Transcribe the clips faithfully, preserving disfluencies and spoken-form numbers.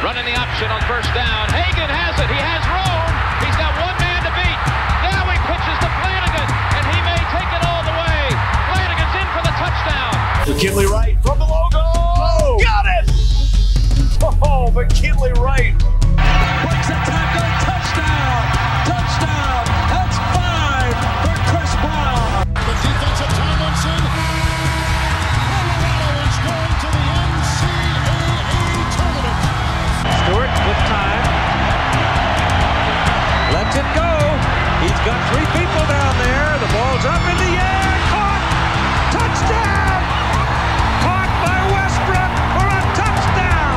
Running the option on first down. Hagan has it. He has room. He's got one man to beat. Now he pitches to Flanagan, and he may take it all the way. Flanagan's in for the touchdown. McKinley Wright from the logo. Oh, got it! Oh, McKinley Wright. Breaks a tackle. Touchdown. Touchdown. That's five for Chris Brown. The defense of Tomlinson. Colorado is going to the N C double A tournament. Stewart with time. Lets it go. He's got three people down there. The ball's up in the air. Caught. Touchdown. Caught by Westbrook for a touchdown.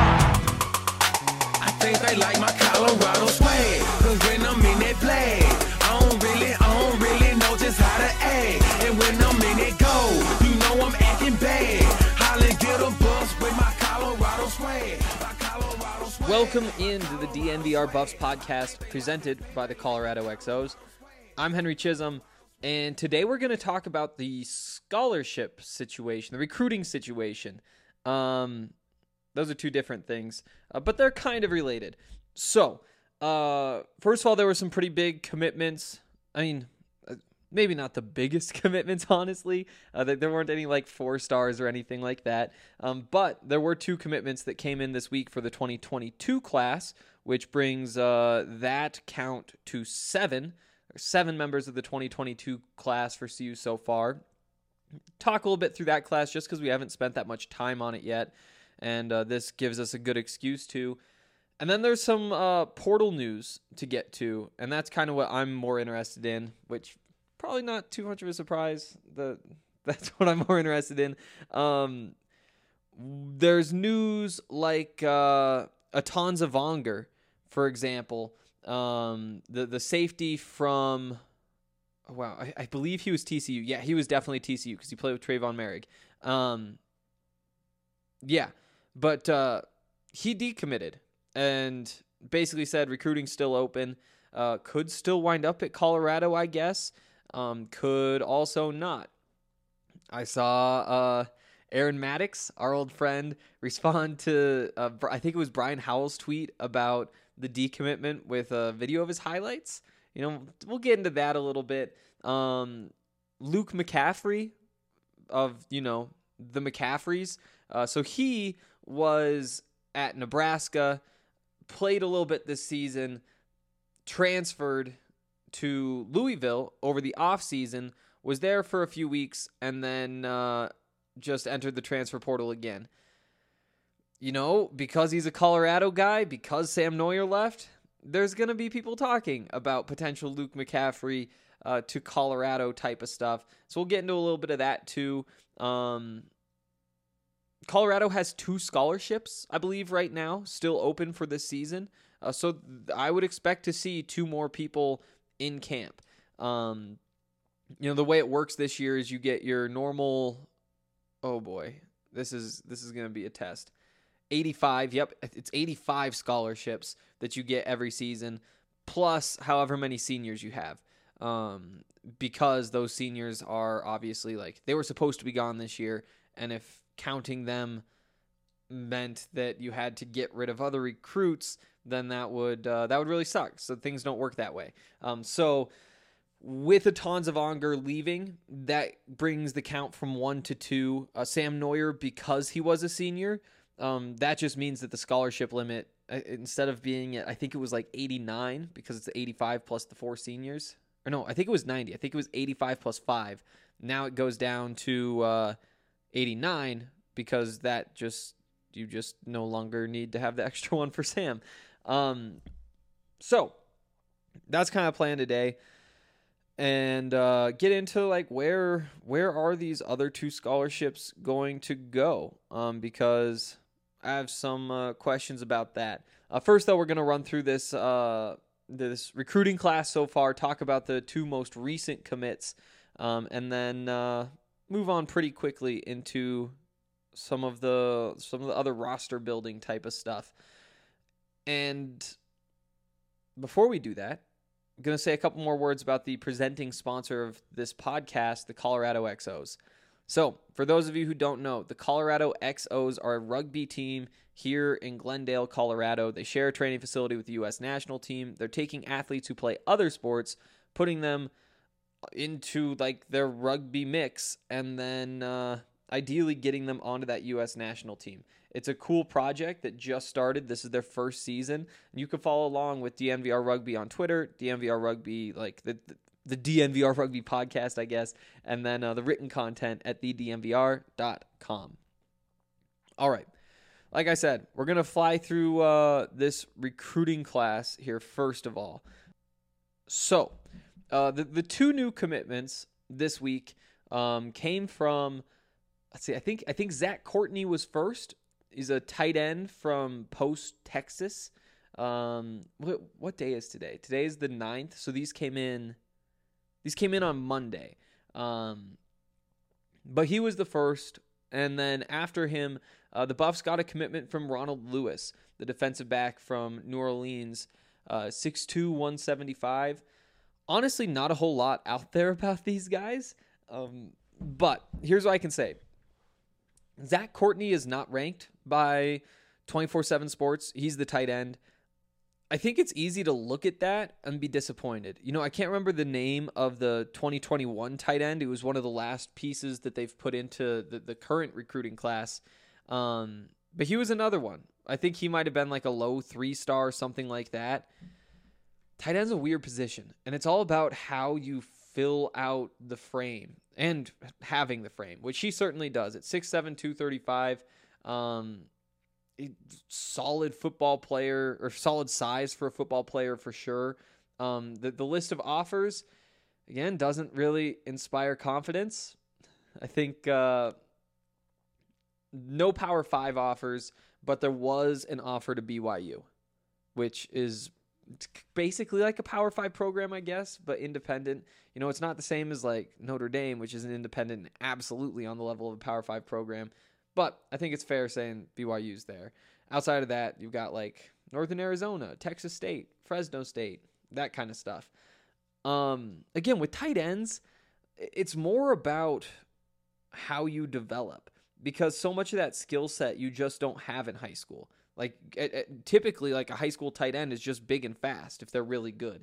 I think they like my Colorado swag. Cause when I'm in that play, I don't really, I don't really know just how to act. And when I'm in that go, you know I'm acting bad. Holly get a bus with my Colorado swag. My Colorado swag. Welcome into the D N V R Buffs podcast presented by the Colorado X Os. I'm Henry Chisholm, and today we're going to talk about the scholarship situation, the recruiting situation. Um, those are two different things, uh, but they're kind of related. So, uh, first of all, there were some pretty big commitments. I mean, uh, maybe not the biggest commitments, honestly. Uh, there, there weren't any like four stars or anything like that. Um, but there were two commitments that came in this week for the twenty twenty-two class, which brings uh, that count to seven. Seven members of the twenty twenty-two class for C U so far. Talk a little bit through that class just because we haven't spent that much time on it yet, and uh, this gives us a good excuse to. And then there's some uh, portal news to get to, and that's kind of what I'm more interested in, which probably not too much of a surprise. The that's what I'm more interested in. Um, there's news like uh, Atanza Vonger, for example. Um, the, the safety from, oh, wow, I, I believe he was T C U. Yeah, he was definitely T C U because he played with Trayvon Merrick. Um, yeah, but uh, he decommitted and basically said recruiting's still open. Uh, could still wind up at Colorado, I guess. Um, could also not. I saw uh, Aaron Maddox, our old friend, respond to, uh, I think it was Brian Howell's tweet about the decommitment with a video of his highlights. You know, we'll get into that a little bit. Um, Luke McCaffrey of, you know, the McCaffreys. Uh, so he was at Nebraska, played a little bit this season, transferred to Louisville over the offseason, was there for a few weeks, and then uh, just entered the transfer portal again. You know, because he's a Colorado guy, because Sam Neuer left, there's going to be people talking about potential Luke McCaffrey uh, to Colorado type of stuff. So we'll get into a little bit of that too. Um, Colorado has two scholarships, I believe, right now, still open for this season. Uh, so th- I would expect to see two more people in camp. Um, you know, the way it works this year is you get your normal, oh boy, this is this is going to be a test. eighty-five, yep, it's eighty-five scholarships that you get every season, plus however many seniors you have. Um, because those seniors are obviously, like, they were supposed to be gone this year, and if counting them meant that you had to get rid of other recruits, then that would uh, that would really suck. So things don't work that way. Um, so with Atanza Vonger leaving, that brings the count from one to two. Uh, Sam Neuer, because he was a senior, Um, that just means that the scholarship limit, uh, instead of being at, I think it was like eighty-nine, because it's eighty-five plus the four seniors. Or no, I think it was ninety. I think it was eighty-five plus five. Now it goes down to uh, eighty-nine, because that just, you just no longer need to have the extra one for Sam. Um, so that's kind of plan today. And uh, get into like where where are these other two scholarships going to go? Um, because I have some uh, questions about that. Uh, first, though, we're going to run through this uh, this recruiting class so far, talk about the two most recent commits, um, and then uh, move on pretty quickly into some of the some of the other roster building type of stuff. And before we do that, I'm going to say a couple more words about the presenting sponsor of this podcast, the Colorado X Os. So, for those of you who don't know, the Colorado X Os are a rugby team here in Glendale, Colorado. They share a training facility with the U S national team. They're taking athletes who play other sports, putting them into like their rugby mix, and then uh, ideally getting them onto that U S national team. It's a cool project that just started. This is their first season. And you can follow along with D N V R Rugby on Twitter, D N V R Rugby, like the, the the D N V R Rugby podcast, I guess, and then uh, the written content at the d n v r dot com. All right. Like I said, we're going to fly through uh, this recruiting class here first of all. So, uh, the, the two new commitments this week um, came from, let's see, I think I think Zach Courtney was first. He's a tight end from Post, Texas. Um, what, what day is today? Today is the ninth, so these came in... These came in on Monday, um, but he was the first, and then after him, uh, the Buffs got a commitment from Ronald Lewis, the defensive back from New Orleans, uh, six two, one seventy-five. Honestly, not a whole lot out there about these guys, um, but here's what I can say. Zach Courtney is not ranked by twenty-four seven Sports. He's the tight end. I think it's easy to look at that and be disappointed. You know, I can't remember the name of the twenty twenty-one tight end. It was one of the last pieces that they've put into the, the current recruiting class. Um, but he was another one. I think he might have been like a low three-star or something like that. Tight end's a weird position, and it's all about how you fill out the frame and having the frame, which he certainly does. At six seven, two thirty-five, um, solid football player, or solid size for a football player for sure. Um, the, the list of offers, again, doesn't really inspire confidence. I think uh, no Power five offers, but there was an offer to B Y U, which is basically like a Power five program, I guess, but independent. You know, it's not the same as like Notre Dame, which is an independent and absolutely on the level of a Power five program. But I think it's fair saying B Y U's there. Outside of that, you've got like Northern Arizona, Texas State, Fresno State, that kind of stuff. Um, again, with tight ends, it's more about how you develop, because so much of that skill set you just don't have in high school. Like it, it, typically, like a high school tight end is just big and fast if they're really good.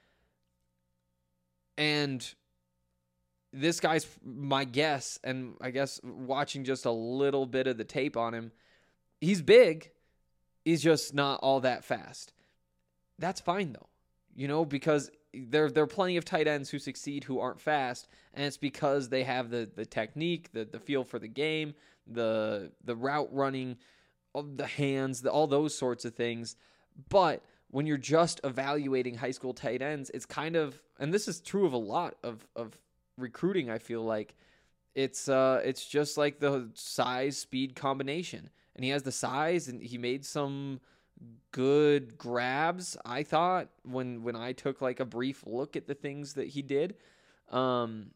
And this guy's my guess, and I guess watching just a little bit of the tape on him, he's big. He's just not all that fast. That's fine, though, you know, because there, there are plenty of tight ends who succeed who aren't fast, and it's because they have the, the technique, the, the feel for the game, the the route running, the hands, the, all those sorts of things. But when you're just evaluating high school tight ends, it's kind of, and this is true of a lot of, of recruiting, I feel like, it's uh it's just like the size speed combination, and he has the size, and he made some good grabs, I thought, when when I took like a brief look at the things that he did. Um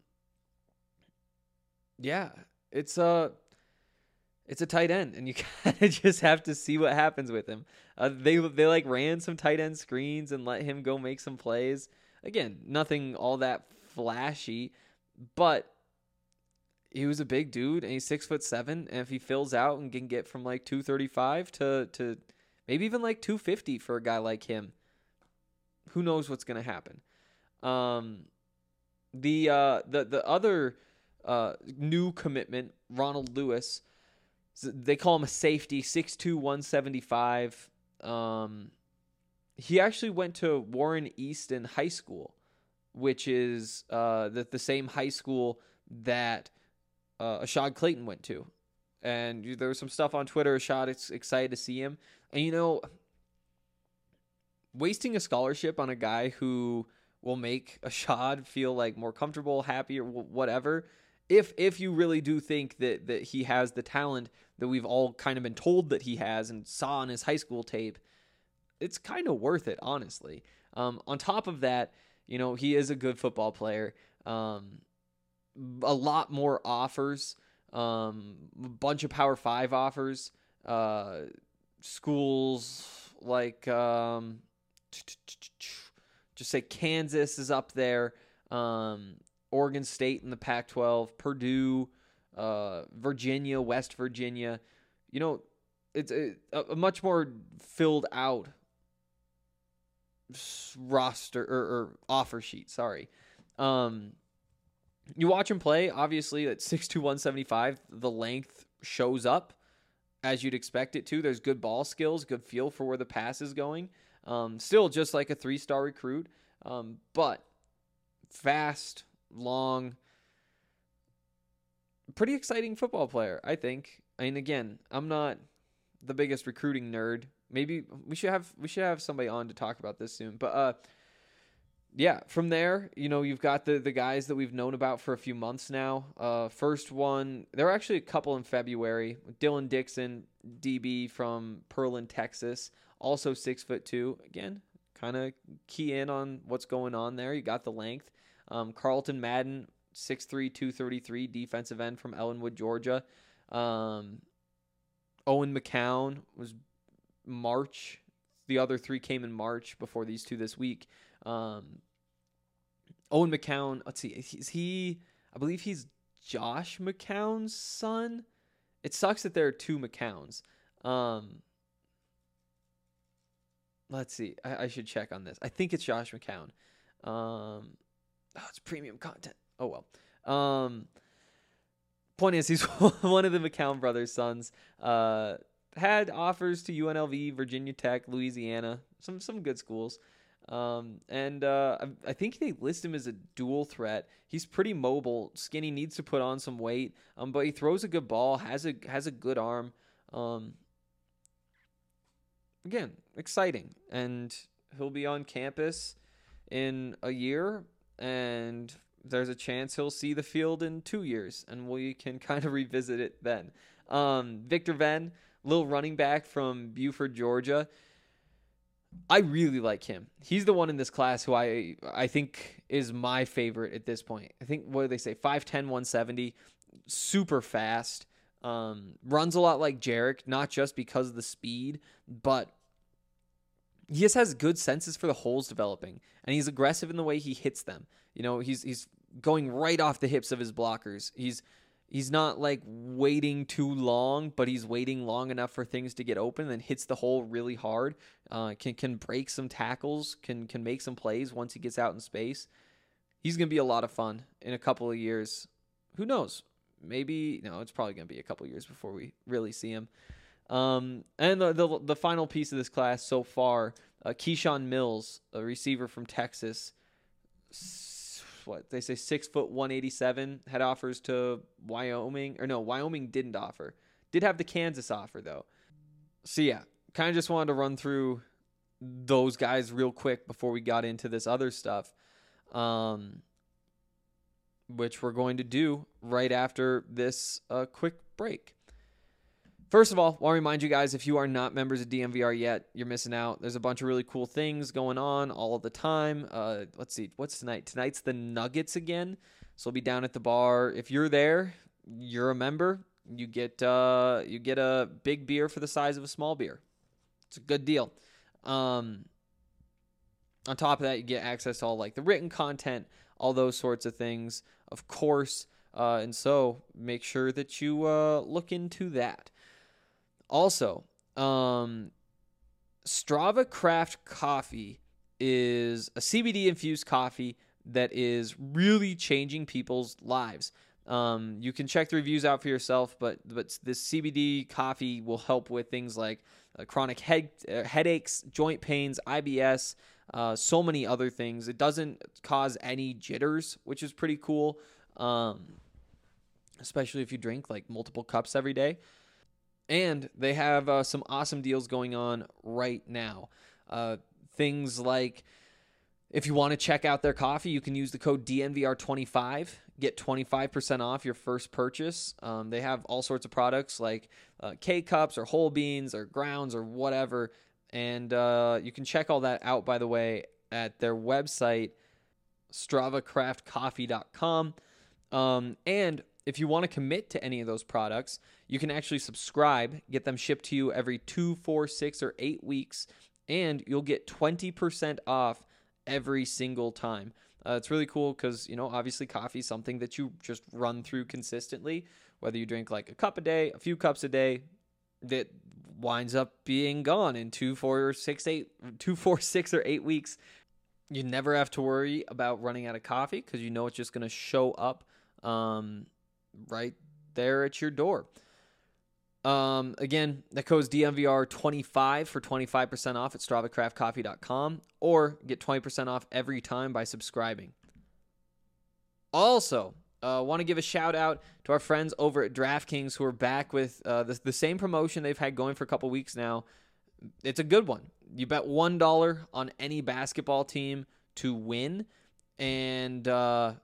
yeah, it's a it's a tight end, and you kind of just have to see what happens with him. Uh, they they like ran some tight end screens and let him go make some plays. Again, nothing all that flashy, but he was a big dude, and he's six foot seven. And if he fills out and can get from like two thirty-five to to maybe even like two fifty for a guy like him, who knows what's gonna happen? Um, the uh the the other uh new commitment, Ronald Lewis, they call him a safety, six two, one seventy-five. Um, he actually went to Warren Easton High School, which is uh, the, the same high school that uh, Ashad Clayton went to. And there was some stuff on Twitter. Ashad is excited to see him. And, you know, wasting a scholarship on a guy who will make Ashad feel like more comfortable, happy, or whatever, if if you really do think that, that he has the talent that we've all kind of been told that he has and saw on his high school tape, it's kind of worth it, honestly. Um, on top of that, you know, he is a good football player. Um, a lot more offers, um, a bunch of Power Five offers. Uh, schools like, um, just say Kansas is up there. Um, Oregon State in the Pac twelve, Purdue, uh, Virginia, West Virginia. You know, it's a, a much more filled out roster or, or offer sheet. Sorry. Um, you watch him play, obviously at six two, one seventy-five, the length shows up as you'd expect it to. There's good ball skills, good feel for where the pass is going. Um, still just like a three-star recruit, um, but fast, long, pretty exciting football player, I think. I mean, again, I'm not the biggest recruiting nerd. Maybe we should have we should have somebody on to talk about this soon. But uh, yeah, from there, you know, you've got the the guys that we've known about for a few months now. Uh, first one, there were actually a couple in February. Dylan Dixon, D B from Pearland, Texas, also six foot two. Again, kind of key in on what's going on there. You got the length. Um, Carlton Madden, six three, two thirty-three, defensive end from Ellenwood, Georgia. Um, Owen McCown was March. The other three came in March before these two this week. Um, Owen McCown, let's see, is he, I believe he's Josh McCown's son. It sucks that there are two McCowns. Um, let's see, I, I should check on this. I think it's Josh McCown. Um, oh, it's premium content. Oh, well. Um, point is, he's one of the McCown brothers' sons. Uh, had offers to U N L V, Virginia Tech, Louisiana, some some good schools. Um, and uh, I, I think they list him as a dual threat. He's pretty mobile, skinny, needs to put on some weight, um, but he throws a good ball, has a has a good arm. Um, again, exciting, and he'll be on campus in a year, and there's a chance he'll see the field in two years, and we can kind of revisit it then. Um, Victor Venn, little running back from Buford, Georgia. I really like him. He's the one in this class who I I think is my favorite at this point. I think, what do they say, five ten, one seventy, super fast, um, runs a lot like Jarek, not just because of the speed, but he just has good senses for the holes developing, and he's aggressive in the way he hits them. You know, he's he's going right off the hips of his blockers. He's He's not like waiting too long, but he's waiting long enough for things to get open, and hits the hole really hard. Uh, can can break some tackles, can can make some plays once he gets out in space. He's going to be a lot of fun in a couple of years. Who knows? Maybe, no, it's probably going to be a couple of years before we really see him. Um, and the, the the final piece of this class so far, uh, Keyshawn Mills, a receiver from Texas. What they say, six foot one eighty seven, had offers to Wyoming, or no, Wyoming didn't offer. Did have the Kansas offer though. So yeah, kind of just wanted to run through those guys real quick before we got into this other stuff, um, which we're going to do right after this uh, quick break. First of all, I want to remind you guys, if you are not members of D N V R yet, you're missing out. There's a bunch of really cool things going on all of the time. Uh, let's see, what's tonight? Tonight's the Nuggets again, so we'll be down at the bar. If you're there, you're a member. You get uh, you get a big beer for the size of a small beer. It's a good deal. Um, on top of that, you get access to all like the written content, all those sorts of things, of course. Uh, and so make sure that you uh, look into that. Also, um, Strava Craft Coffee is a C B D-infused coffee that is really changing people's lives. Um, you can check the reviews out for yourself, but but this C B D coffee will help with things like uh, chronic head uh, headaches, joint pains, I B S, uh, so many other things. It doesn't cause any jitters, which is pretty cool, um, especially if you drink like multiple cups every day. And they have uh, some awesome deals going on right now. Uh, things like, if you want to check out their coffee, you can use the code D N V R twenty-five, get twenty-five percent off your first purchase. Um, they have all sorts of products like uh, K-Cups or whole beans or grounds or whatever. And uh, you can check all that out, by the way, at their website, strava craft coffee dot com. Um, and if you want to commit to any of those products, you can actually subscribe, get them shipped to you every two, four, six, or eight weeks, and you'll get twenty percent off every single time. Uh, it's really cool because, you know, obviously coffee is something that you just run through consistently. whether you drink like a cup a day, a few cups a day, that winds up being gone in two, four, six, eight, two, four, six, or eight weeks. You never have to worry about running out of coffee because you know it's just going to show up um, right there at your door. Um, again, that code's D M V R twenty-five for twenty-five percent off at strava craft coffee dot com, or get twenty percent off every time by subscribing. Also, uh, want to give a shout out to our friends over at DraftKings who are back with uh, the, the same promotion they've had going for a couple weeks now. It's a good one. You bet one dollar on any basketball team to win, and uh,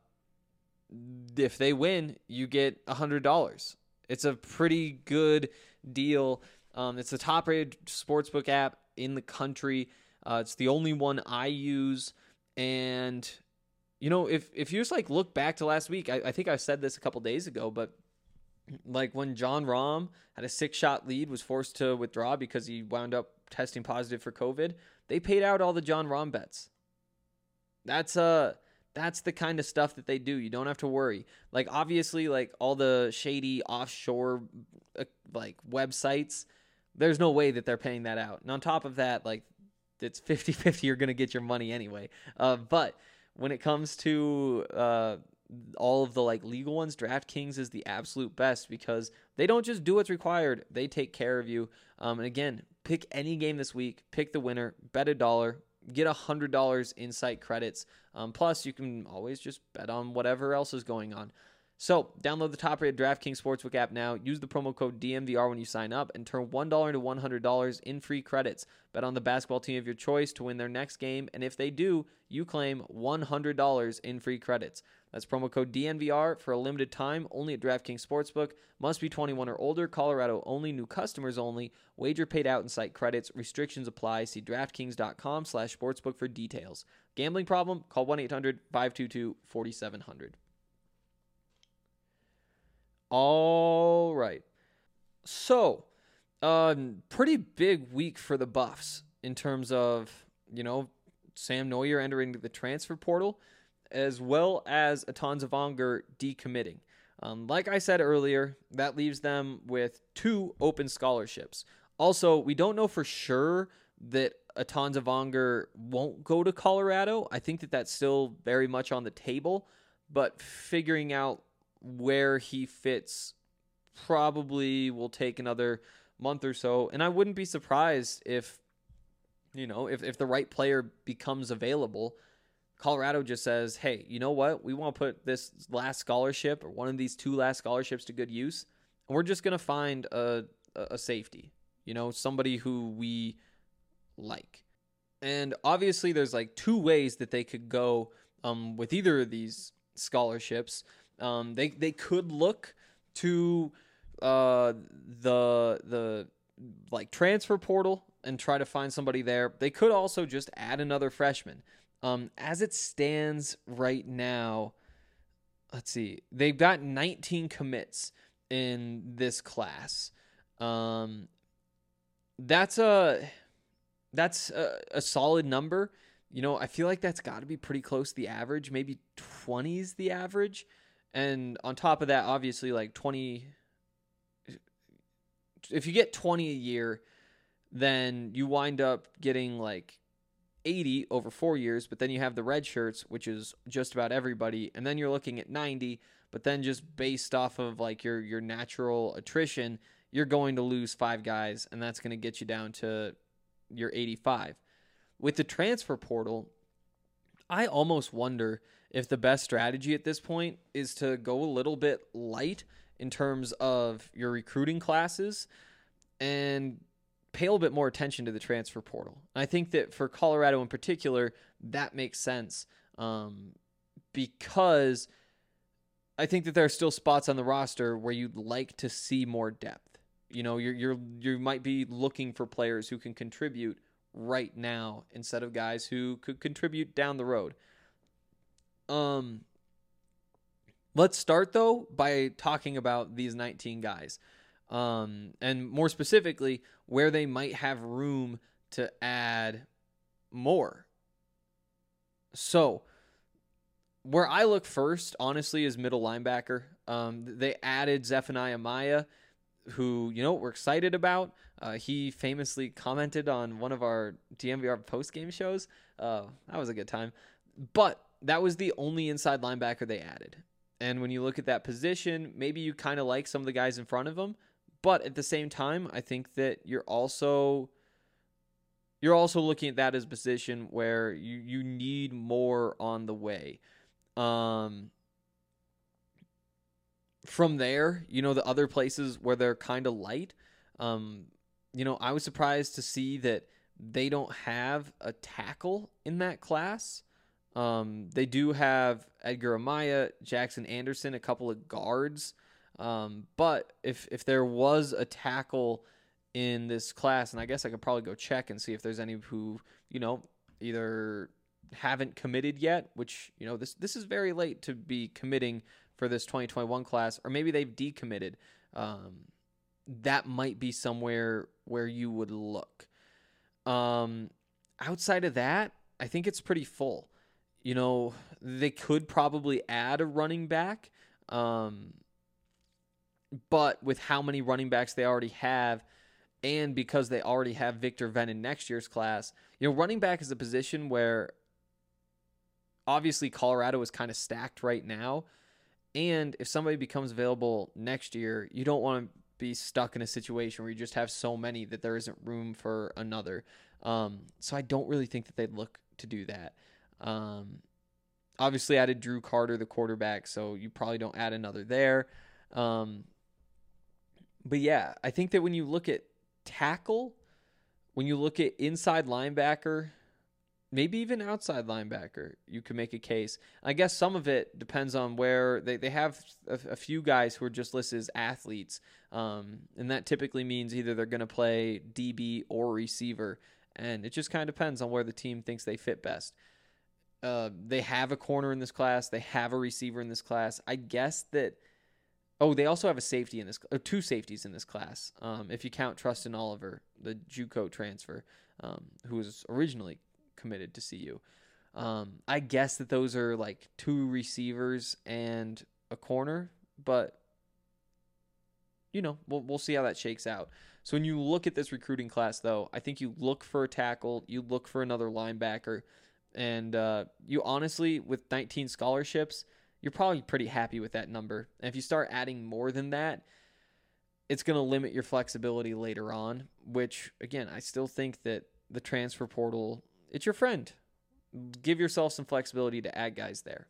if they win, you get one hundred dollars. It's a pretty good deal. Um, it's the top-rated sportsbook app in the country. Uh, it's the only one I use. And, you know, if if you just, like, look back to last week, I, I think I said this a couple days ago, but, like, when John Rahm had a six-shot lead, was forced to withdraw because he wound up testing positive for COVID, they paid out all the John Rahm bets. That's uh that's the kind of stuff that they do. You don't have to worry. Like, obviously, like, all the shady offshore uh, like websites, there's no way that they're paying that out. And on top of that, like, it's fifty-fifty, you're going to get your money anyway. Uh, but when it comes to uh, all of the, like, legal ones, DraftKings is the absolute best because they don't just do what's required. They take care of you. Um, and again, pick any game this week, pick the winner, bet a dollar, get one hundred dollars in site credits. Um, plus, you can always just bet on whatever else is going on. So, download the top-rated DraftKings Sportsbook app now. Use the promo code D M V R when you sign up and turn one dollar into one hundred dollars in free credits. Bet on the basketball team of your choice to win their next game, and if they do, you claim one hundred dollars in free credits. That's promo code D N V R for a limited time, only at DraftKings Sportsbook. Must be twenty-one or older. Colorado only. New customers only. Wager paid out in site credits. Restrictions apply. See DraftKings.com slash sportsbook for details. Gambling problem? Call one eight hundred five two two four seven zero zero. All right. So, um, pretty big week for the Buffs in terms of, you know, Sam Noyer entering the transfer portal, as well as Atan Zavanger decommitting. Um, like I said earlier, that leaves them with two open scholarships. Also, we don't know for sure that Atan Zavanger won't go to Colorado. I think that that's still very much on the table, but figuring out where he fits probably will take another month or so. And I wouldn't be surprised if, you know, if, if the right player becomes available, Colorado just says, hey, you know what? We want to put this last scholarship or one of these two last scholarships to good use. And we're just going to find a, a safety, you know, somebody who we like. And obviously there's like two ways that they could go um, with either of these scholarships. Um, they, they could look to uh, the, the like transfer portal and try to find somebody there. They could also just add another freshman. Um, as it stands right now, let's see, they've got nineteen commits in this class. Um, that's a, that's a, a solid number. You know, I feel like that's got to be pretty close to the average. Maybe twenty is the average. And on top of that, obviously, like twenty, if you get twenty a year, then you wind up getting like eighty over four years, but then you have the red shirts, which is just about everybody, and then you're looking at ninety, but then just based off of like your your natural attrition, you're going to lose five guys, and that's going to get you down to your eighty-five. With the transfer portal, I almost wonder if the best strategy at this point is to go a little bit light in terms of your recruiting classes and pay a little bit more attention to the transfer portal. I think that for Colorado in particular, that makes sense um, because I think that there are still spots on the roster where you'd like to see more depth. You know, you're you're you might be looking for players who can contribute right now instead of guys who could contribute down the road. Um, let's start though by talking about these nineteen guys. Um, and more specifically, where they might have room to add more. So, where I look first, honestly, is middle linebacker. Um, they added Zephaniah Maya, who, you know, we're excited about. Uh, he famously commented on one of our D M V R post-game shows. Uh, that was a good time. But that was the only inside linebacker they added. And when you look at that position, maybe you kind of like some of the guys in front of him. But at the same time, I think that you're also you're also looking at that as a position where you, you need more on the way. Um, from there, you know, the other places where they're kind of light, um, you know, I was surprised to see that they don't have a tackle in that class. Um, they do have Edgar Amaya, Jackson Anderson, a couple of guards. Um, but if if there was a tackle in this class, and I guess I could probably go check and see if there's any who, you know, either haven't committed yet, which, you know, this this is very late to be committing for this twenty twenty-one class, or maybe they've decommitted. Um, that might be somewhere where you would look. Um, outside of that, I think it's pretty full. You know, they could probably add a running back. Um, but with how many running backs they already have, and because they already have Victor Venn in next year's class, you know, running back is a position where obviously Colorado is kind of stacked right now. And if somebody becomes available next year, you don't want to be stuck in a situation where you just have so many that there isn't room for another. Um, so I don't really think that they'd look to do that. Um, obviously added Drew Carter, the quarterback, so you probably don't add another there. Um, but yeah, I think that when you look at tackle, when you look at inside linebacker, maybe even outside linebacker, you can make a case. I guess some of it depends on where they, they have a, a few guys who are just listed as athletes. Um, and that typically means either they're going to play D B or receiver. And it just kind of depends on where the team thinks they fit best. Uh, they have a corner in this class. They have a receiver in this class. I guess that, oh, they also have a safety in this, or two safeties in this class. Um, if you count Trustin Oliver, the JUCO transfer, um, who was originally committed to C U. Um, I guess that those are like two receivers and a corner, but you know, we'll we'll see how that shakes out. So when you look at this recruiting class, though, I think you look for a tackle, you look for another linebacker, and uh, you honestly, with nineteen scholarships, you're probably pretty happy with that number. And if you start adding more than that, it's going to limit your flexibility later on, which, again, I still think that the transfer portal, it's your friend. Give yourself some flexibility to add guys there.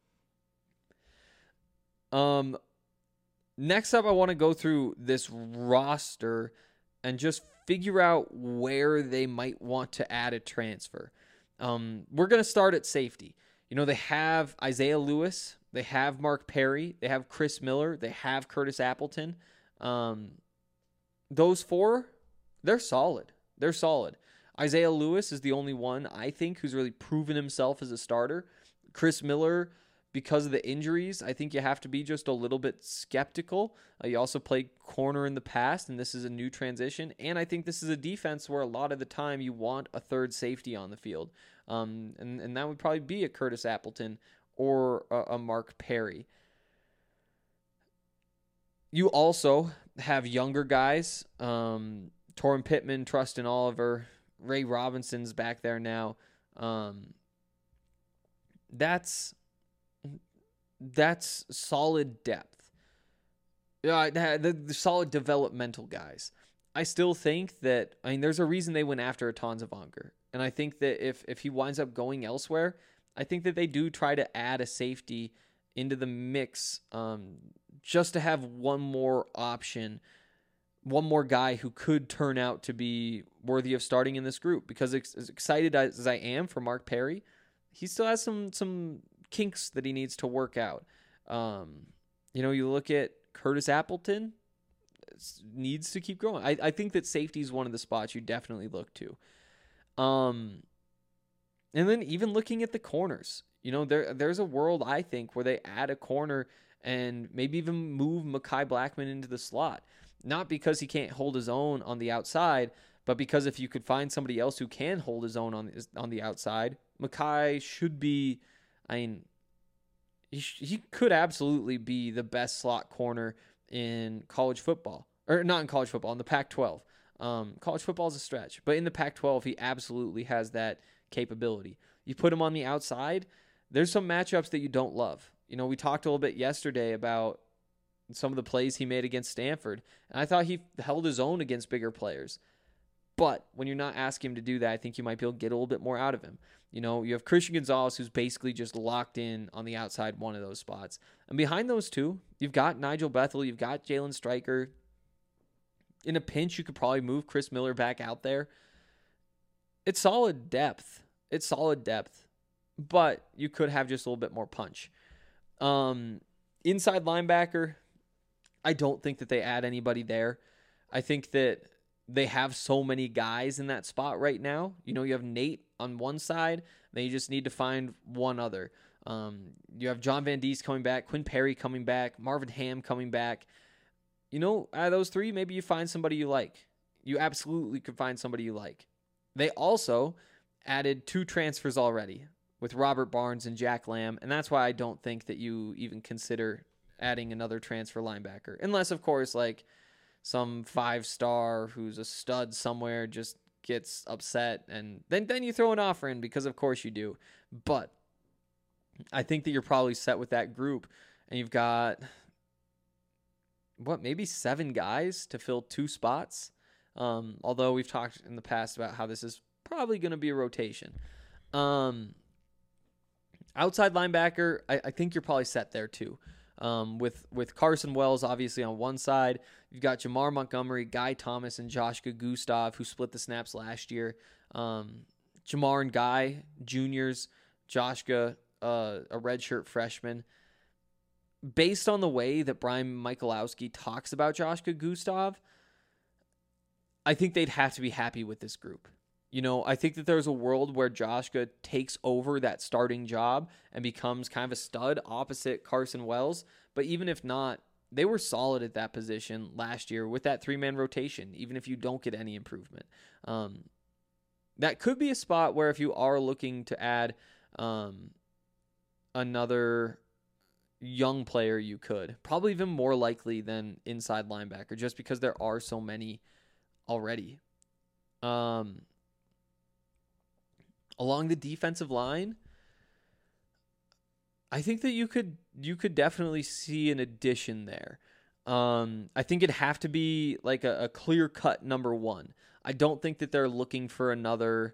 Um, next up, I want to go through this roster and just figure out where they might want to add a transfer. Um, we're going to start at safety. You know, they have Isaiah Lewis, they have Mark Perry, they have Chris Miller, they have Curtis Appleton. Um, those four, they're solid. They're solid. Isaiah Lewis is the only one, I think, who's really proven himself as a starter. Chris Miller, because of the injuries, I think you have to be just a little bit skeptical. Uh, you also played corner in the past, and this is a new transition. And I think this is a defense where a lot of the time you want a third safety on the field. Um, and, and that would probably be a Curtis Appleton or a, a Mark Perry. You also have younger guys, um, Torrin Pittman, Trustin Oliver, Ray Robinson's back there now. Um, that's that's solid depth. Uh, the, the solid developmental guys. I still think that, I mean, there's a reason they went after Atan Zavanger. And I think that if, if he winds up going elsewhere, I think that they do try to add a safety into the mix um, just to have one more option, one more guy who could turn out to be worthy of starting in this group. Because as excited as I am for Mark Perry, he still has some some kinks that he needs to work out. Um, you know, you look at Curtis Appleton, needs to keep growing. I, I think that safety is one of the spots you definitely look to. Um, and then even looking at the corners, you know, there there's a world, I think, where they add a corner and maybe even move Mekhi Blackman into the slot. Not because he can't hold his own on the outside, but because if you could find somebody else who can hold his own on on the outside, Mekhi should be, I mean, he, sh- he could absolutely be the best slot corner in college football. Or not in college football, in the Pac twelve. Um, college football is a stretch. But in the Pac twelve, he absolutely has that capability. You put him on the outside, there's some matchups that you don't love. You know, we talked a little bit yesterday about some of the plays he made against Stanford, and I thought he held his own against bigger players. But when you're not asking him to do that, I think you might be able to get a little bit more out of him. You know, you have Christian Gonzalez, who's basically just locked in on the outside one of those spots. And behind those two, you've got Nigel Bethel, you've got Jalen Stryker. In a pinch, you could probably move Chris Miller back out there. It's solid depth. It's solid depth. But you could have just a little bit more punch. Um, inside linebacker, I don't think that they add anybody there. I think that they have so many guys in that spot right now. You know, you have Nate on one side, then you just need to find one other. Um, you have John Van Diest coming back, Quinn Perry coming back, Marvin Ham coming back. You know, out of those three, maybe you find somebody you like. You absolutely could find somebody you like. They also added two transfers already with Robert Barnes and Jack Lamb, and that's why I don't think that you even consider adding another transfer linebacker. Unless, of course, like some five-star who's a stud somewhere just gets upset, and then, then you throw an offer in because, of course, you do. But I think that you're probably set with that group, and you've got, what, maybe seven guys to fill two spots? Um, although we've talked in the past about how this is probably going to be a rotation. Um, outside linebacker, I, I think you're probably set there too. Um, with, with Carson Wells, obviously, on one side. You've got Jamar Montgomery, Guy Thomas, and Joshua Gustav, who split the snaps last year. Um, Jamar and Guy, juniors. Joshua, uh, a redshirt freshman. Based on the way that Brian Michalowski talks about Joshua Gustav, I think they'd have to be happy with this group. You know, I think that there's a world where Joshua takes over that starting job and becomes kind of a stud opposite Carson Wells. But even if not, they were solid at that position last year with that three-man rotation, even if you don't get any improvement. Um, that could be a spot where if you are looking to add um, another young player, you could. Probably even more likely than inside linebacker, just because there are so many already. Um... Along the defensive line, I think that you could you could definitely see an addition there. Um, I think it'd have to be like a, a clear-cut number one. I don't think that they're looking for another,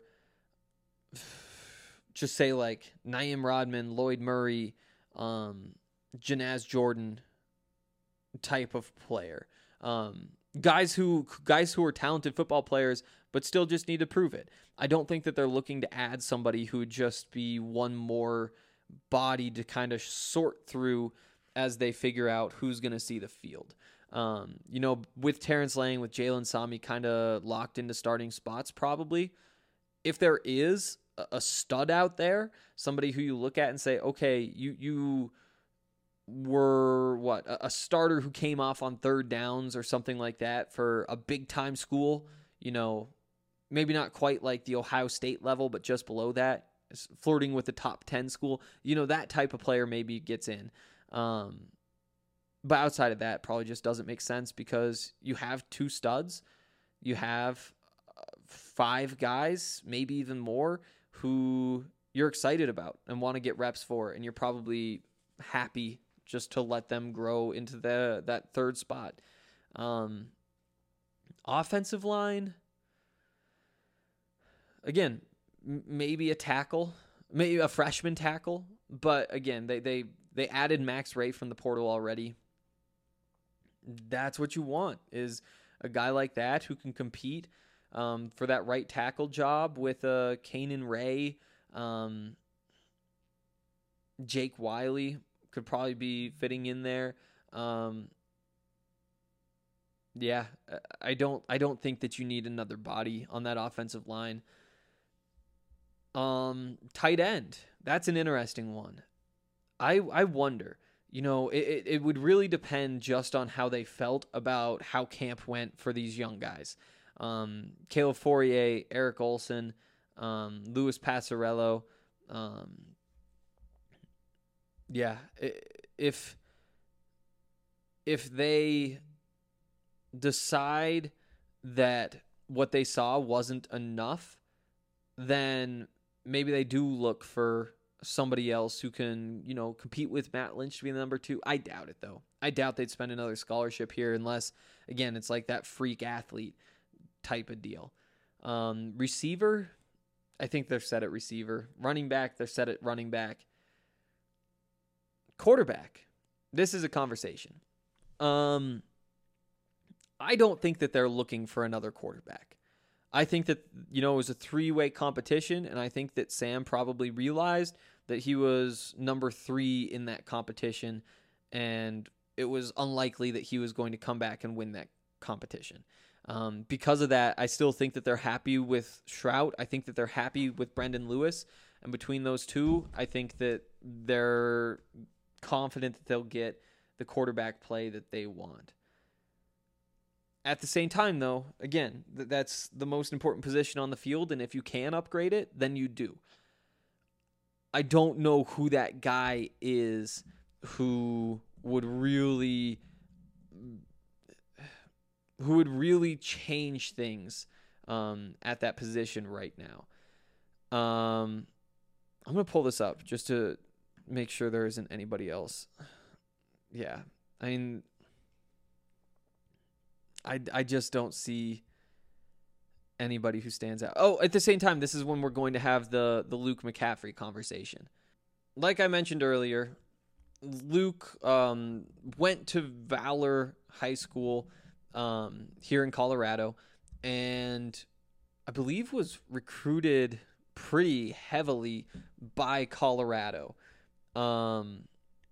just say like Naeem Rodman, Lloyd Murray, um, Janaz Jordan type of player. Um, guys who guys who are talented football players, but still just need to prove it. I don't think that they're looking to add somebody who would just be one more body to kind of sort through as they figure out who's going to see the field. Um, you know, with Terrence Lang, with Jalen Sami kind of locked into starting spots probably, if there is a stud out there, somebody who you look at and say, okay, you you were, what, a starter who came off on third downs or something like that for a big-time school, you know, maybe not quite like the Ohio State level, but just below that, flirting with the top ten school. You know, that type of player maybe gets in. Um, but outside of that, probably just doesn't make sense because you have two studs. You have five guys, maybe even more, who you're excited about and want to get reps for, and you're probably happy just to let them grow into the that third spot. Um, offensive line, again, m- maybe a tackle, maybe a freshman tackle, but again, they they they added Max Ray from the portal already. That's what you want, is a guy like that who can compete um, for that right tackle job with uh, Kanan Ray, um, Jake Wiley could probably be fitting in there. Um, yeah, I don't I don't think that you need another body on that offensive line. Um, tight end, that's an interesting one. I I wonder, you know, it, it, it would really depend just on how they felt about how camp went for these young guys. Um, Caleb Fourier, Eric Olson, um, Louis Passarello, um, Yeah, if if they decide that what they saw wasn't enough, then maybe they do look for somebody else who can, you know, compete with Matt Lynch to be the number two. I doubt it, though. I doubt they'd spend another scholarship here unless, again, it's like that freak athlete type of deal. Um, receiver, I think they're set at receiver. Running back, they're set at running back. Quarterback, this is a conversation. Um, I don't think that they're looking for another quarterback. I think that, you know, it was a three-way competition, and I think that Sam probably realized that he was number three in that competition, and it was unlikely that he was going to come back and win that competition. Um, because of that, I still think that they're happy with Shrout. I think that they're happy with Brendan Lewis, and between those two, I think that they're confident that they'll get the quarterback play that they want. At the same time, though, again, th- that's the most important position on the field, and if you can upgrade it, then you do. I don't know who that guy is who would really who would really change things um, at that position right now. Um, I'm going to pull this up just to make sure there isn't anybody else. Yeah, I mean... I, I just don't see anybody who stands out. Oh, at the same time, this is when we're going to have the, the Luke McCaffrey conversation. Like I mentioned earlier, Luke um, went to Valor High School um, here in Colorado, and I believe was recruited pretty heavily by Colorado. Um,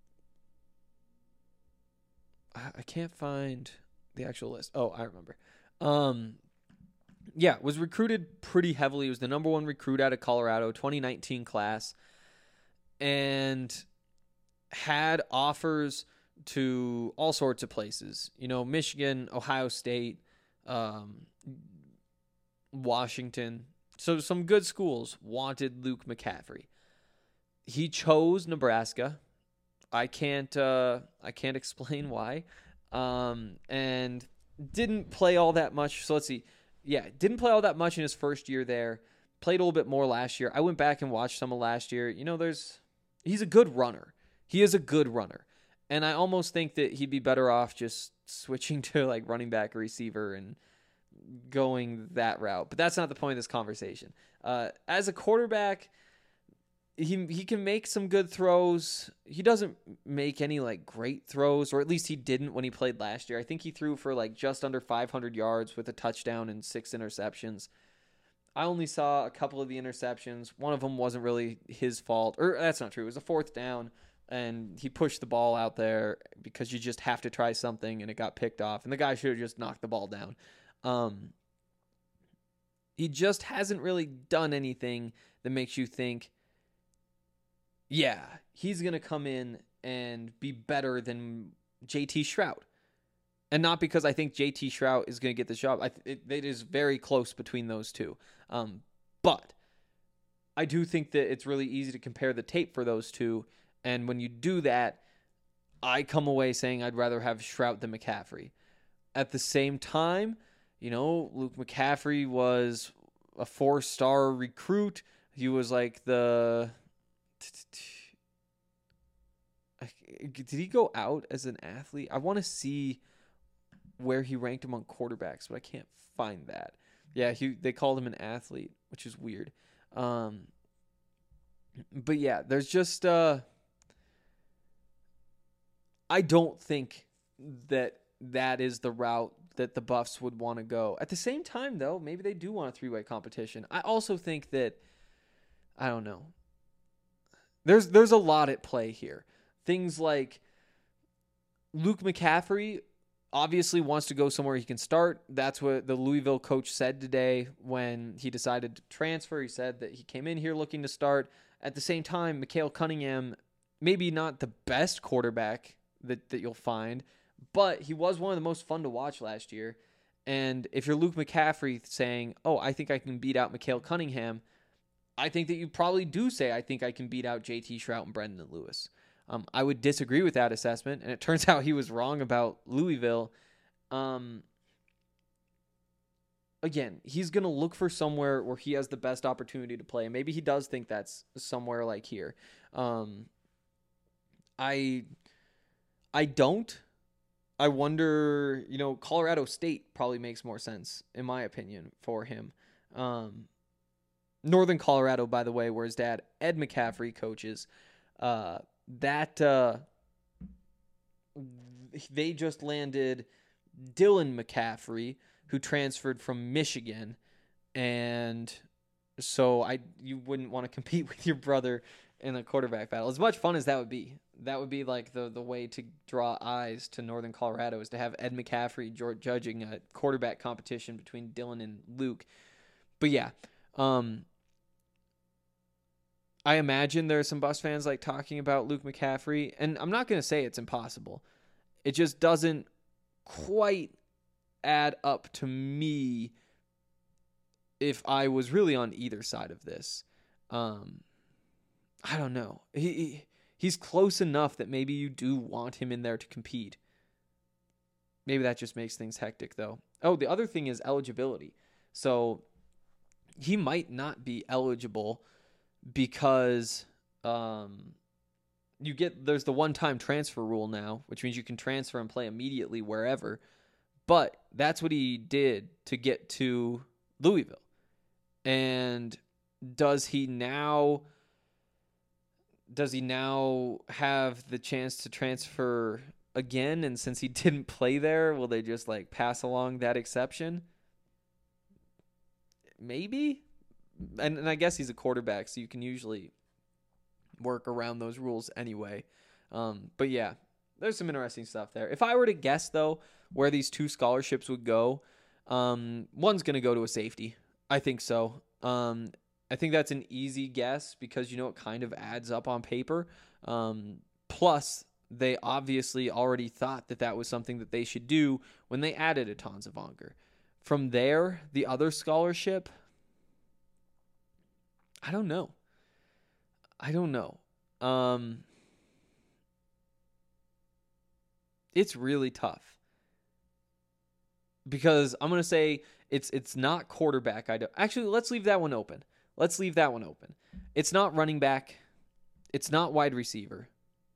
I, I can't find... the actual list. Oh, I remember. Um, yeah, was recruited pretty heavily. He was the number one recruit out of Colorado, twenty nineteen class, and had offers to all sorts of places. You know, Michigan, Ohio State, um, Washington. So some good schools wanted Luke McCaffrey. He chose Nebraska. I can't. Uh, I can't explain why. Um, and didn't play all that much. So let's see. Yeah, didn't play all that much in his first year there. Played a little bit more last year. I went back and watched some of last year. You know, there's he's a good runner. He is a good runner. And I almost think that he'd be better off just switching to like running back or receiver and going that route. But that's not the point of this conversation. Uh, as a quarterback, He he can make some good throws. He doesn't make any like great throws, or at least he didn't when he played last year. I think he threw for like just under five hundred yards with a touchdown and six interceptions. I only saw a couple of the interceptions. One of them wasn't really his fault, or that's not true. It was a fourth down, and he pushed the ball out there because you just have to try something, and it got picked off, and the guy should have just knocked the ball down. Um, he just hasn't really done anything that makes you think, yeah, he's going to come in and be better than J T Shrout. And not because I think J T Shrout is going to get the job. I th- it, it is very close between those two. Um, but I do think that it's really easy to compare the tape for those two. And when you do that, I come away saying I'd rather have Shrout than McCaffrey. At the same time, you know, Luke McCaffrey was a four-star recruit. He was like the... Did he go out as an athlete? I want to see where he ranked among quarterbacks, but I can't find that. Yeah, he they called him an athlete, which is weird. Um, but yeah, there's just uh, I don't think that that is the route that the Buffs would want to go. At the same time, though, maybe they do want a three-way competition. I also think that I don't know. There's there's a lot at play here. Things like Luke McCaffrey obviously wants to go somewhere he can start. That's what the Louisville coach said today when he decided to transfer. He said that he came in here looking to start. At the same time, Mikael Cunningham, maybe not the best quarterback that, that you'll find, but he was one of the most fun to watch last year. And if you're Luke McCaffrey saying, oh, I think I can beat out Mikael Cunningham, I think that you probably do say, I think I can beat out J T Shrout and Brendan Lewis. Um, I would disagree with that assessment, and it turns out he was wrong about Louisville. Um, again, he's going to look for somewhere where he has the best opportunity to play. Maybe he does think that's somewhere like here. Um, I I don't. I wonder, you know, Colorado State probably makes more sense, in my opinion, for him. Um, Northern Colorado, by the way, where his dad, Ed McCaffrey, coaches, uh, that uh, they just landed Dylan McCaffrey, who transferred from Michigan, and so I you wouldn't want to compete with your brother in a quarterback battle. As much fun as that would be, that would be like the the way to draw eyes to Northern Colorado, is to have Ed McCaffrey judging a quarterback competition between Dylan and Luke. But yeah, um, I imagine there are some Bucs fans like talking about Luke McCaffrey, and I'm not going to say it's impossible. It just doesn't quite add up to me if I was really on either side of this. Um, I don't know. He, he he's close enough that maybe you do want him in there to compete. Maybe that just makes things hectic, though. Oh, the other thing is eligibility. So he might not be eligible because um, you get there's the one-time transfer rule now, which means you can transfer and play immediately wherever. But that's what he did to get to Louisville. And does he now does he now have the chance to transfer again? And since he didn't play there, will they just like pass along that exception? Maybe. And, and I guess he's a quarterback, so you can usually work around those rules anyway. Um, but yeah, there's some interesting stuff there. If I were to guess, though, where these two scholarships would go, um, one's going to go to a safety. I think so. Um, I think that's an easy guess because, you know, it kind of adds up on paper. Um, plus, they obviously already thought that that was something that they should do when they added a Tons of Onger. From there, the other scholarship, I don't know. I don't know. Um, it's really tough. Because I'm going to say it's it's not quarterback. I don't, actually, let's leave that one open. Let's leave that one open. It's not running back. It's not wide receiver.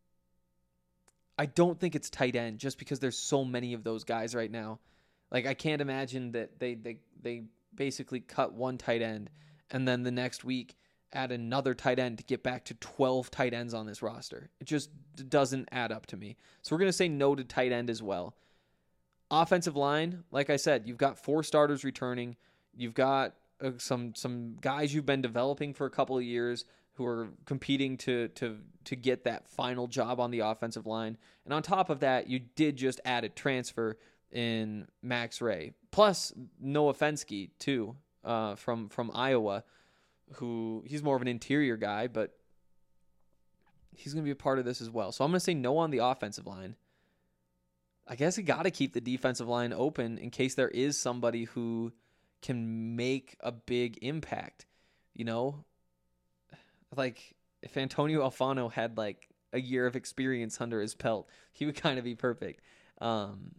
I don't think it's tight end just because there's so many of those guys right now. Like, I can't imagine that they they, they basically cut one tight end and then the next week add another tight end to get back to twelve tight ends on this roster. It just doesn't add up to me. So we're going to say no to tight end as well. Offensive line, like I said, you've got four starters returning. You've got uh, some some guys you've been developing for a couple of years who are competing to to to get that final job on the offensive line. And on top of that, you did just add a transfer in Max Ray, plus Noah Fensky too, uh, from from Iowa, who he's more of an interior guy, but he's going to be a part of this as well. So I'm going to say no on the offensive line. I guess you got to keep the defensive line open in case there is somebody who can make a big impact. You know, like if Antonio Alfano had like a year of experience under his belt, he would kind of be perfect. Um,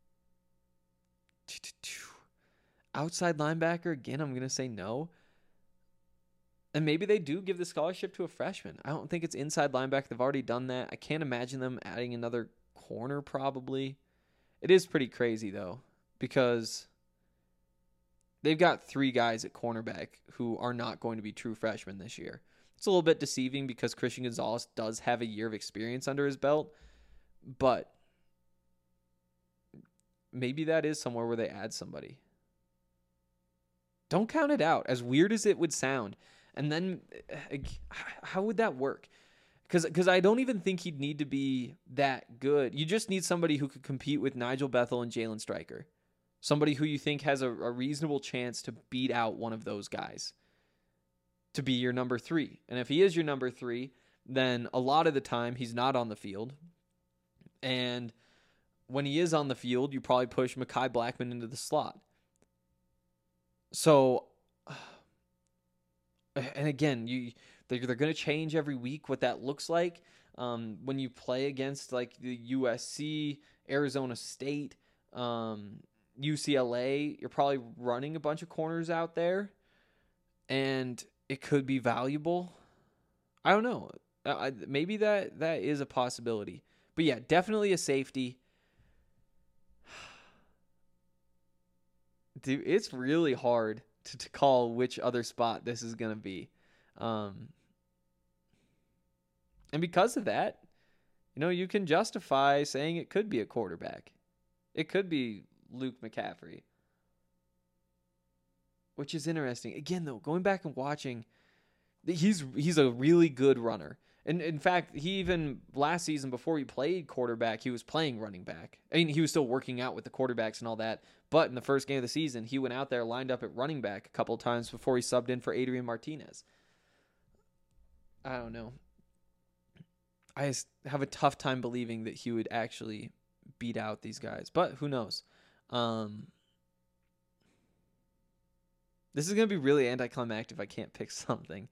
outside linebacker, again, I'm going to say no. And maybe they do give the scholarship to a freshman. I don't think it's inside linebacker. They've already done that. I can't imagine them adding another corner probably. It is pretty crazy though, because they've got three guys at cornerback who are not going to be true freshmen this year. It's a little bit deceiving because Christian Gonzalez does have a year of experience under his belt, but maybe that is somewhere where they add somebody. Don't count it out, as weird as it would sound. And then how would that work? Because because I don't even think he'd need to be that good. You just need somebody who could compete with Nigel Bethel and Jalen Stryker. Somebody who you think has a, a reasonable chance to beat out one of those guys. To be your number three. And if he is your number three, then a lot of the time he's not on the field. And when he is on the field, you probably push Mekhi Blackman into the slot. So and again, you they're, they're going to change every week what that looks like. Um, when you play against like the U S C, Arizona State, um, U C L A, you're probably running a bunch of corners out there, and it could be valuable. I don't know. I, maybe that that is a possibility. But yeah, definitely a safety. Dude, it's really hard to, to call which other spot this is going to be. Um, and because of that, you know, you can justify saying it could be a quarterback. It could be Luke McCaffrey. Which is interesting. Again, though, going back and watching, he's he's a really good runner. And in fact, he even last season before he played quarterback, he was playing running back. I mean, he was still working out with the quarterbacks and all that. But in the first game of the season, he went out there, lined up at running back a couple of times before he subbed in for Adrian Martinez. I don't know. I just have a tough time believing that he would actually beat out these guys. But who knows? Um, this is going to be really anticlimactic if I can't pick something.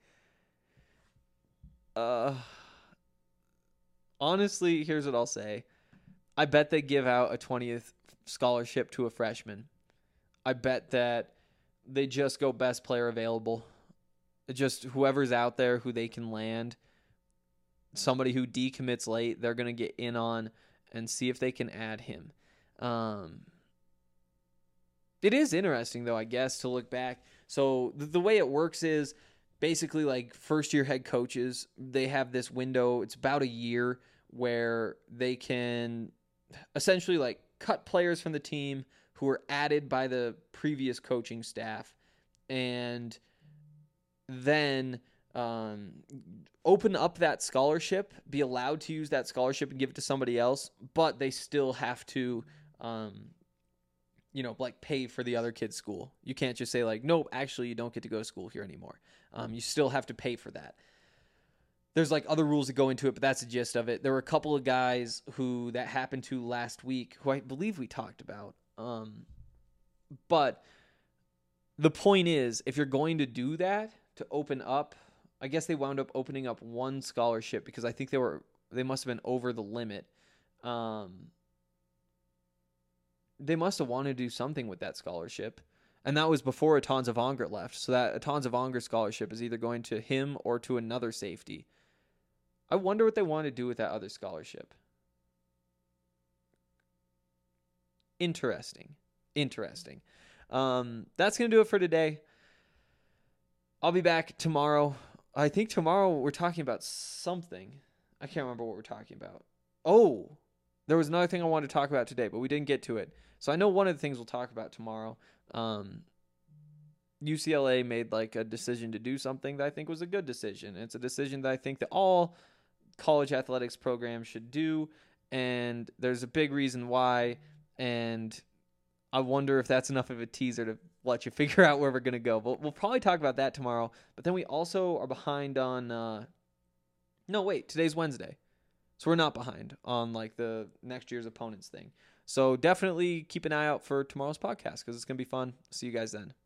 Uh, honestly, here's what I'll say. I bet they give out a twentieth scholarship to a freshman. I bet that they just go best player available. Just whoever's out there who they can land. Somebody who decommits late, they're going to get in on and see if they can add him. Um, it is interesting, though, I guess, to look back. So the, the way it works is, basically, like, first-year head coaches, they have this window. It's about a year where they can essentially, like, cut players from the team who were added by the previous coaching staff and then um, open up that scholarship, be allowed to use that scholarship and give it to somebody else, but they still have to um, you know, like pay for the other kid's school. You can't just say like, nope, actually you don't get to go to school here anymore. Um, you still have to pay for that. There's like other rules that go into it, but that's the gist of it. There were a couple of guys who that happened to last week, who I believe we talked about. Um, but the point is, if you're going to do that, to open up, I guess they wound up opening up one scholarship because I think they were, they must have been over the limit. Um, they must have wanted to do something with that scholarship. And that was before Atonza Vongert left. So that Atonza Vongert scholarship is either going to him or to another safety. I wonder what they want to do with that other scholarship. Interesting. Interesting. Um, that's going to do it for today. I'll be back tomorrow. I think tomorrow we're talking about something. I can't remember what we're talking about. Oh, there was another thing I wanted to talk about today, but we didn't get to it. So I know one of the things we'll talk about tomorrow. Um, U C L A made like a decision to do something that I think was a good decision. It's a decision that I think that all college athletics programs should do, and there's a big reason why, and I wonder if that's enough of a teaser to let you figure out where we're going to go. But we'll probably talk about that tomorrow. But then we also are behind on uh, – no, wait, today's Wednesday. So we're not behind on like the next year's opponents thing. So definitely keep an eye out for tomorrow's podcast because it's going to be fun. See you guys then.